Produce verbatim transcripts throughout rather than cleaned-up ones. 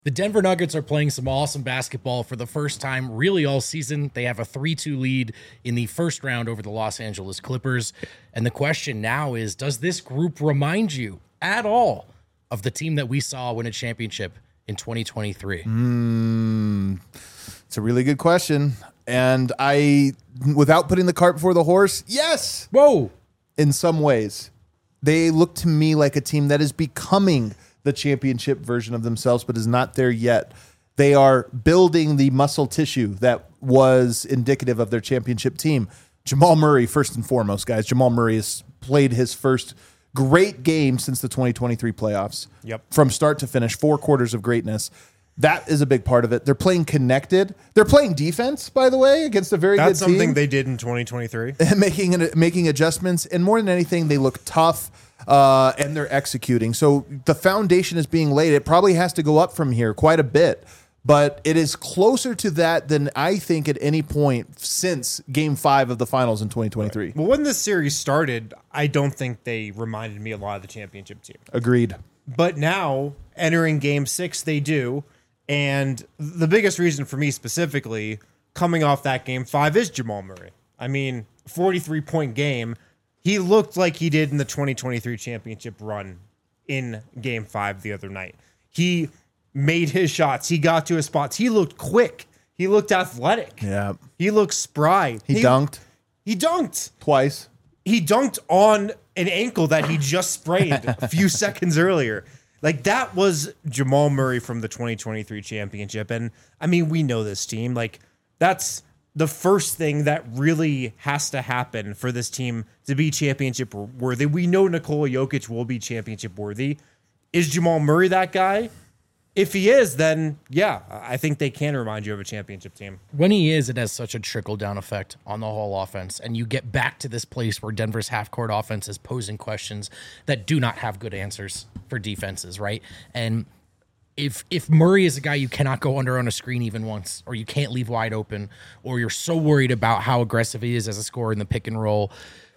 The Denver Nuggets are playing some awesome basketball for the first time really all season. They have a three two lead in the first round over the Los Angeles Clippers. And the question now is, does this group remind you at all of the team that we saw win a championship in twenty twenty-three? Mm, it's a really good question. And I, without putting the cart before the horse, yes. Whoa. In some ways. They look to me like a team that is becoming the championship version of themselves, but is not there yet. They are building the muscle tissue that was indicative of their championship team. Jamal Murray, first and foremost, guys. Jamal Murray has played his first great game since the twenty twenty-three playoffs. Yep. From start to finish, four quarters of greatness. That is a big part of it. They're playing connected. They're playing defense, by the way, against a very That's good team. something they did in twenty twenty-three. making making adjustments, and more than anything, they look tough. Uh, and they're executing. So the foundation is being laid. It probably has to go up from here quite a bit, but it is closer to that than I think at any point since game five of the finals in twenty twenty-three. Right. Well, when this series started, I don't think they reminded me a lot of the championship team. Agreed. But now, entering game six, they do. And the biggest reason for me specifically, coming off that game five, is Jamal Murray. I mean, forty-three point game. He looked like he did in the twenty twenty-three championship run in game five the other night. He made his shots. He got to his spots. He looked quick. He looked athletic. Yeah. He looked spry. He, he dunked. He dunked. Twice. He dunked on an ankle that he just sprayed a few seconds earlier. Like, that was Jamal Murray from the twenty twenty-three championship. And, I mean, we know this team. Like, that's the first thing that really has to happen for this team to be championship worthy. We know Nikola Jokic will be championship worthy. Is Jamal Murray that guy? If he is, then yeah, I think they can remind you of a championship team. When he is, it has such a trickle-down effect on the whole offense, and you get back to this place where Denver's half-court offense is posing questions that do not have good answers for defenses, right? And If if Murray is a guy you cannot go under on a screen even once, or you can't leave wide open, or you're so worried about how aggressive he is as a scorer in the pick and roll,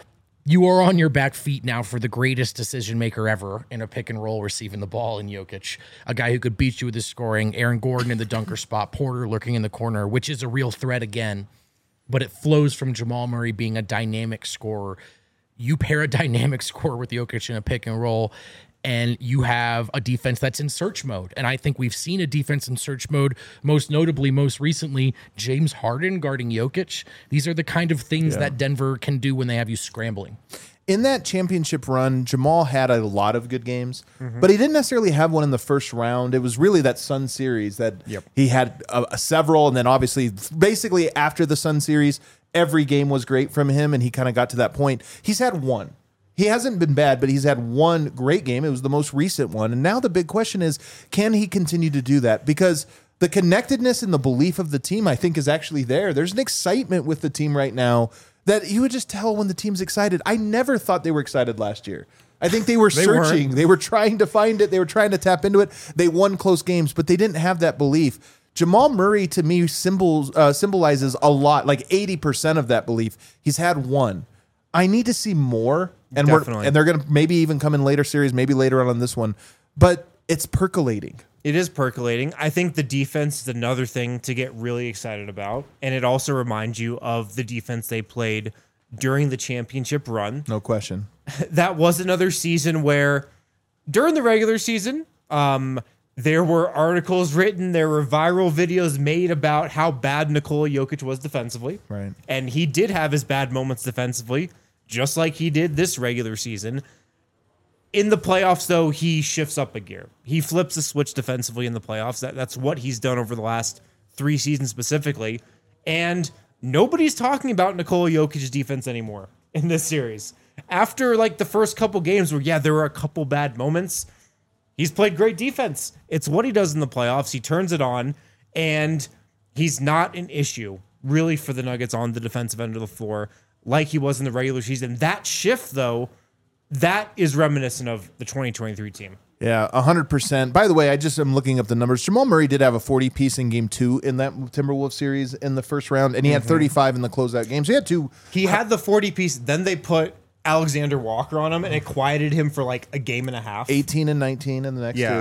you are on your back feet now for the greatest decision maker ever in a pick and roll receiving the ball in Jokic, a guy who could beat you with his scoring, Aaron Gordon in the dunker spot, Porter lurking in the corner, which is a real threat again, but it flows from Jamal Murray being a dynamic scorer. You pair a dynamic scorer with Jokic in a pick and roll, and you have a defense that's in search mode. And I think we've seen a defense in search mode, most notably, most recently, James Harden guarding Jokic. These are the kind of things yeah. that Denver can do when they have you scrambling. In that championship run, Jamal had a lot of good games, mm-hmm. but he didn't necessarily have one in the first round. It was really that Sun series that yep. he had a, a several, and then obviously, basically after the Sun series, every game was great from him, and he kind of got to that point. He's had one. He hasn't been bad, but he's had one great game. It was the most recent one. And now the big question is, can he continue to do that? Because the connectedness and the belief of the team, I think, is actually there. There's an excitement with the team right now that you would just tell when the team's excited. I never thought they were excited last year. I think they were they searching. weren't. They were trying to find it. They were trying to tap into it. They won close games, but they didn't have that belief. Jamal Murray, to me, symbols, uh, symbolizes a lot, like eighty percent of that belief. He's had one. I need to see more. And we're, and they're going to maybe even come in later series, maybe later on on this one. But it's percolating. It is percolating. I think the defense is another thing to get really excited about. And it also reminds you of the defense they played during the championship run. No question. That was another season where during the regular season, um, there were articles written, there were viral videos made about how bad Nikola Jokic was defensively. Right. And he did have his bad moments defensively, just like he did this regular season. In the playoffs, though, he shifts up a gear. He flips the switch defensively in the playoffs. That, that's what he's done over the last three seasons specifically. And nobody's talking about Nikola Jokic's defense anymore in this series. After like the first couple games where, yeah, there were a couple bad moments, he's played great defense. It's what he does in the playoffs. He turns it on, and he's not an issue, really, for the Nuggets on the defensive end of the floor like he was in the regular season. That shift, though, that is reminiscent of the twenty twenty-three team. Yeah, one hundred percent. By the way, I just am looking up the numbers. Jamal Murray did have a forty-piece in game two in that Timberwolves series in the first round, and he mm-hmm. had thirty-five in the closeout games. So he had two. He had the forty-piece, then they put Alexander Walker on him, and it quieted him for like a game and a half. eighteen and nineteen in the next yeah. two.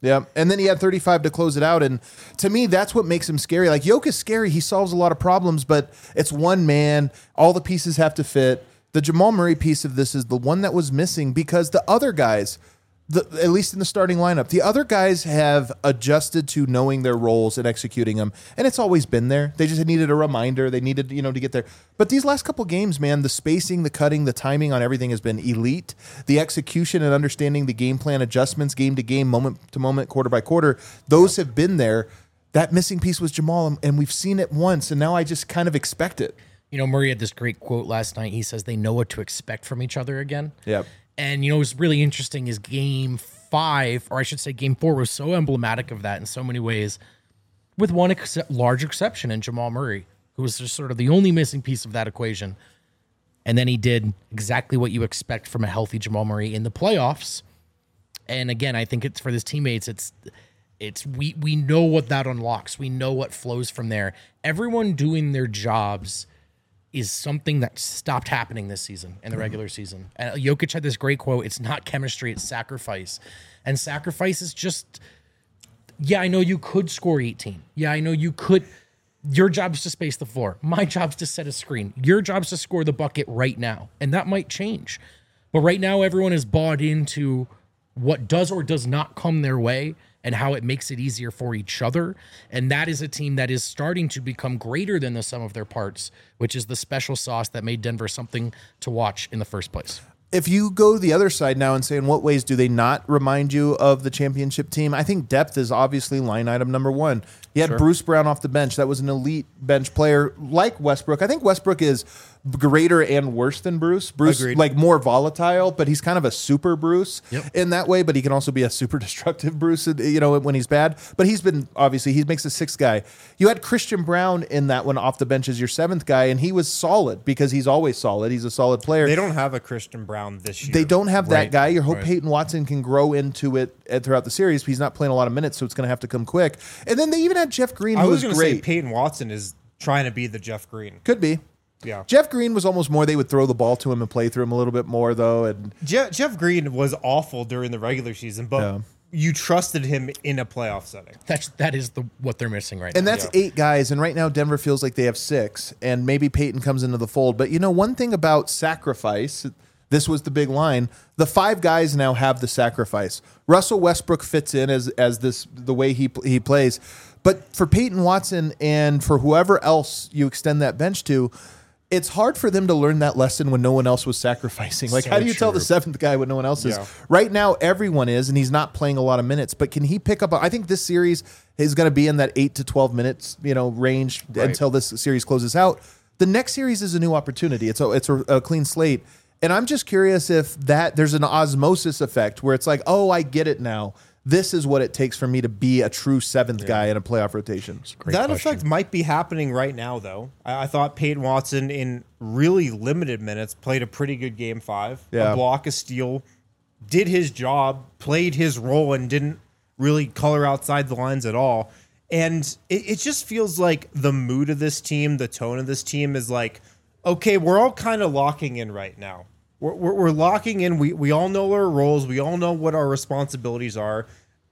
Yeah, and then he had thirty-five to close it out, and to me, that's what makes him scary. Like Jokic is scary; he solves a lot of problems, but it's one man. All the pieces have to fit. The Jamal Murray piece of this is the one that was missing because the other guys, the, at least in the starting lineup, the other guys have adjusted to knowing their roles and executing them, and it's always been there. They just needed a reminder. They needed, you know, to get there. But these last couple games, man, the spacing, the cutting, the timing on everything has been elite. The execution and understanding the game plan adjustments, game to game, moment to moment, quarter by quarter, those have been there. That missing piece was Jamal, and we've seen it once, and now I just kind of expect it. You know, Murray had this great quote last night. He says they know what to expect from each other again. Yep. And, you know, what's really interesting is game five, or I should say game four, was so emblematic of that in so many ways, with one ex- large exception in Jamal Murray, who was just sort of the only missing piece of that equation. And then he did exactly what you expect from a healthy Jamal Murray in the playoffs. And again, I think it's for his teammates, it's it's we we know what that unlocks. We know what flows from there. Everyone doing their jobs is something that stopped happening this season in the regular season. And Jokic had this great quote, it's not chemistry, it's sacrifice. And sacrifice is just, yeah, I know you could score eighteen. Yeah, I know you could. Your job is to space the floor. My job's to set a screen. Your job's to score the bucket right now. And that might change. But right now, everyone is bought into what does or does not come their way and how it makes it easier for each other. And that is a team that is starting to become greater than the sum of their parts, which is the special sauce that made Denver something to watch in the first place. If you go the other side now and say, in what ways do they not remind you of the championship team? I think depth is obviously line item number one. You had Sure. Bruce Brown off the bench. That was an elite bench player like Westbrook. I think Westbrook is greater and worse than Bruce. Bruce, Agreed. like more volatile, but he's kind of a super Bruce Yep. in that way, but he can also be a super destructive Bruce, you know, when he's bad. But he's been, obviously, he makes the sixth guy. You had Christian Brown in that one off the bench as your seventh guy, and he was solid because he's always solid. He's a solid player. They don't have a Christian Brown this year. They don't have that Right. guy. You hope Right. Peyton Watson can grow into it uh, throughout the series. But he's not playing a lot of minutes, so it's going to have to come quick. And then they even had Jeff Green, I who was was going to say great. Peyton Watson is trying to be the Jeff Green. Could be. Yeah. Jeff Green was almost more they would throw the ball to him and play through him a little bit more, though. And Je- Jeff Green was awful during the regular season, but Yeah. you trusted him in a playoff setting. That's that is the what they're missing right and now. that's Yeah. eight guys. And right now, Denver feels like they have six. And maybe Peyton comes into the fold. But you know, one thing about sacrifice, this was the big line. The five guys now have the sacrifice. Russell Westbrook fits in as as this the way he he plays. But for Peyton Watson and for whoever else you extend that bench to, it's hard for them to learn that lesson when no one else was sacrificing. Like, So how do you tell the true. seventh guy when no one else is? Yeah. Right now, everyone is, and he's not playing a lot of minutes. But can he pick up? I think this series is going to be in that eight to twelve minutes, you know, range Right. until this series closes out. The next series is a new opportunity. It's a it's a, a clean slate, and I'm just curious if that there's an osmosis effect where it's like, oh, I get it now. This is what it takes for me to be a true seventh guy in a playoff rotation. Great that question. effect might be happening right now, though. I, I thought Peyton Watson, in really limited minutes, played a pretty good game five. Yeah. A block, a steal, did his job, played his role, and didn't really color outside the lines at all. And it, it just feels like the mood of this team, the tone of this team is like, okay, we're all kind of locking in right now. We're, we're, we're locking in. We, we all know our roles. We all know what our responsibilities are.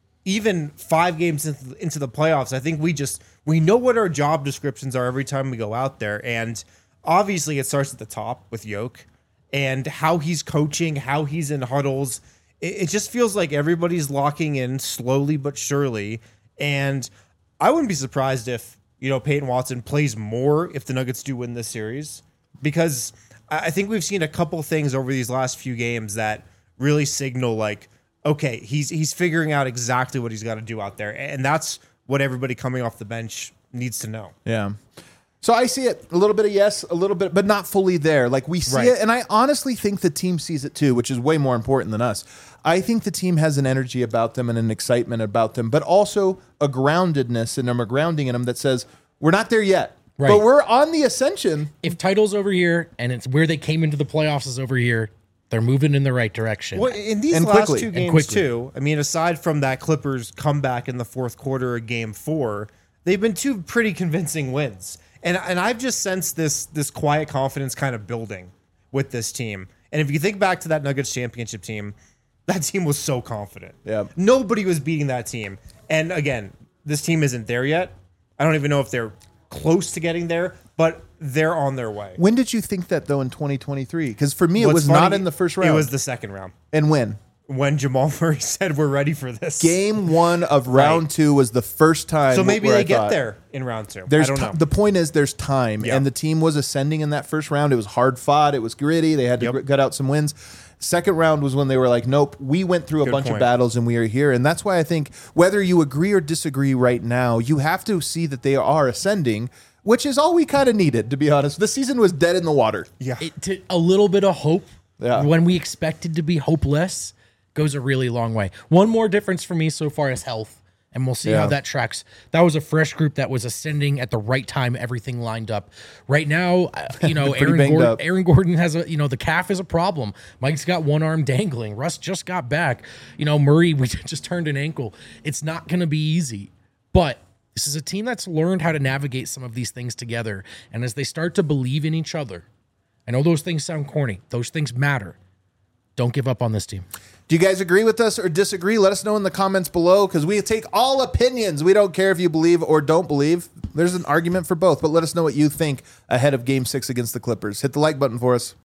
Even five games into, into the playoffs, I think we just we know what our job descriptions are every time we go out there. And obviously it starts at the top with Yoke and how he's coaching, how he's in huddles. It, it just feels like everybody's locking in slowly but surely. And I wouldn't be surprised if, you know, Peyton Watson plays more if the Nuggets do win this series, because I think we've seen a couple things over these last few games that really signal like, okay, he's he's figuring out exactly what he's got to do out there. And that's what everybody coming off the bench needs to know. Yeah. So I see it a little bit of yes, a little bit, but not fully there. Like we see Right. it, and I honestly think the team sees it too, which is way more important than us. I think the team has an energy about them and an excitement about them, but also a groundedness and a grounding in them that says we're not there yet, Right. but we're on the ascension. If title's over here and it's where they came into the playoffs is over here, they're moving in the right direction. Well, in these And last quickly. two And games quickly. too, I mean, aside from that Clippers comeback in the fourth quarter of game four, they've been two pretty convincing wins. And and I've just sensed this this quiet confidence kind of building with this team. And if you think back to that Nuggets championship team, That team was so confident. Yeah. Nobody was beating that team. And again, this team isn't there yet. I don't even know if they're close to getting there, but they're on their way. When did you think that though in twenty twenty-three? Because for me, it What's was funny, not in the first round. It was the second round. And when? When Jamal Murray said we're ready for this. Game one of round Right. two was the first time. So maybe where they I get thought, there in round two. There's I don't ti- know. The point is, there's time, Yeah. and the team was ascending in that first round. It was hard fought. It was gritty. They had to Yep. gr- gut out some wins. Second round was when they were like, nope, we went through a Good bunch of point. battles and we are here. And that's why I think whether you agree or disagree right now, you have to see that they are ascending, which is all we kind of needed, to be honest. The season was dead in the water. yeah. It, to, a little bit of hope Yeah. when we expected to be hopeless goes a really long way. One more difference for me so far is health, and we'll see Yeah. how that tracks. That was a fresh group that was ascending at the right time. Everything lined up. Right now, uh, you know, Pretty Aaron banged Gordon, up. Aaron Gordon has a, you know, the calf is a problem. Mike's got one arm dangling. Russ just got back. You know, Murray, we just turned an ankle. It's not going to be easy, but this is a team that's learned how to navigate some of these things together. And as they start to believe in each other, I know those things sound corny. Those things matter. Don't give up on this team. Do you guys agree with us or disagree? Let us know in the comments below because we take all opinions. We don't care if you believe or don't believe. There's an argument for both, but let us know what you think ahead of game six against the Clippers. Hit the like button for us.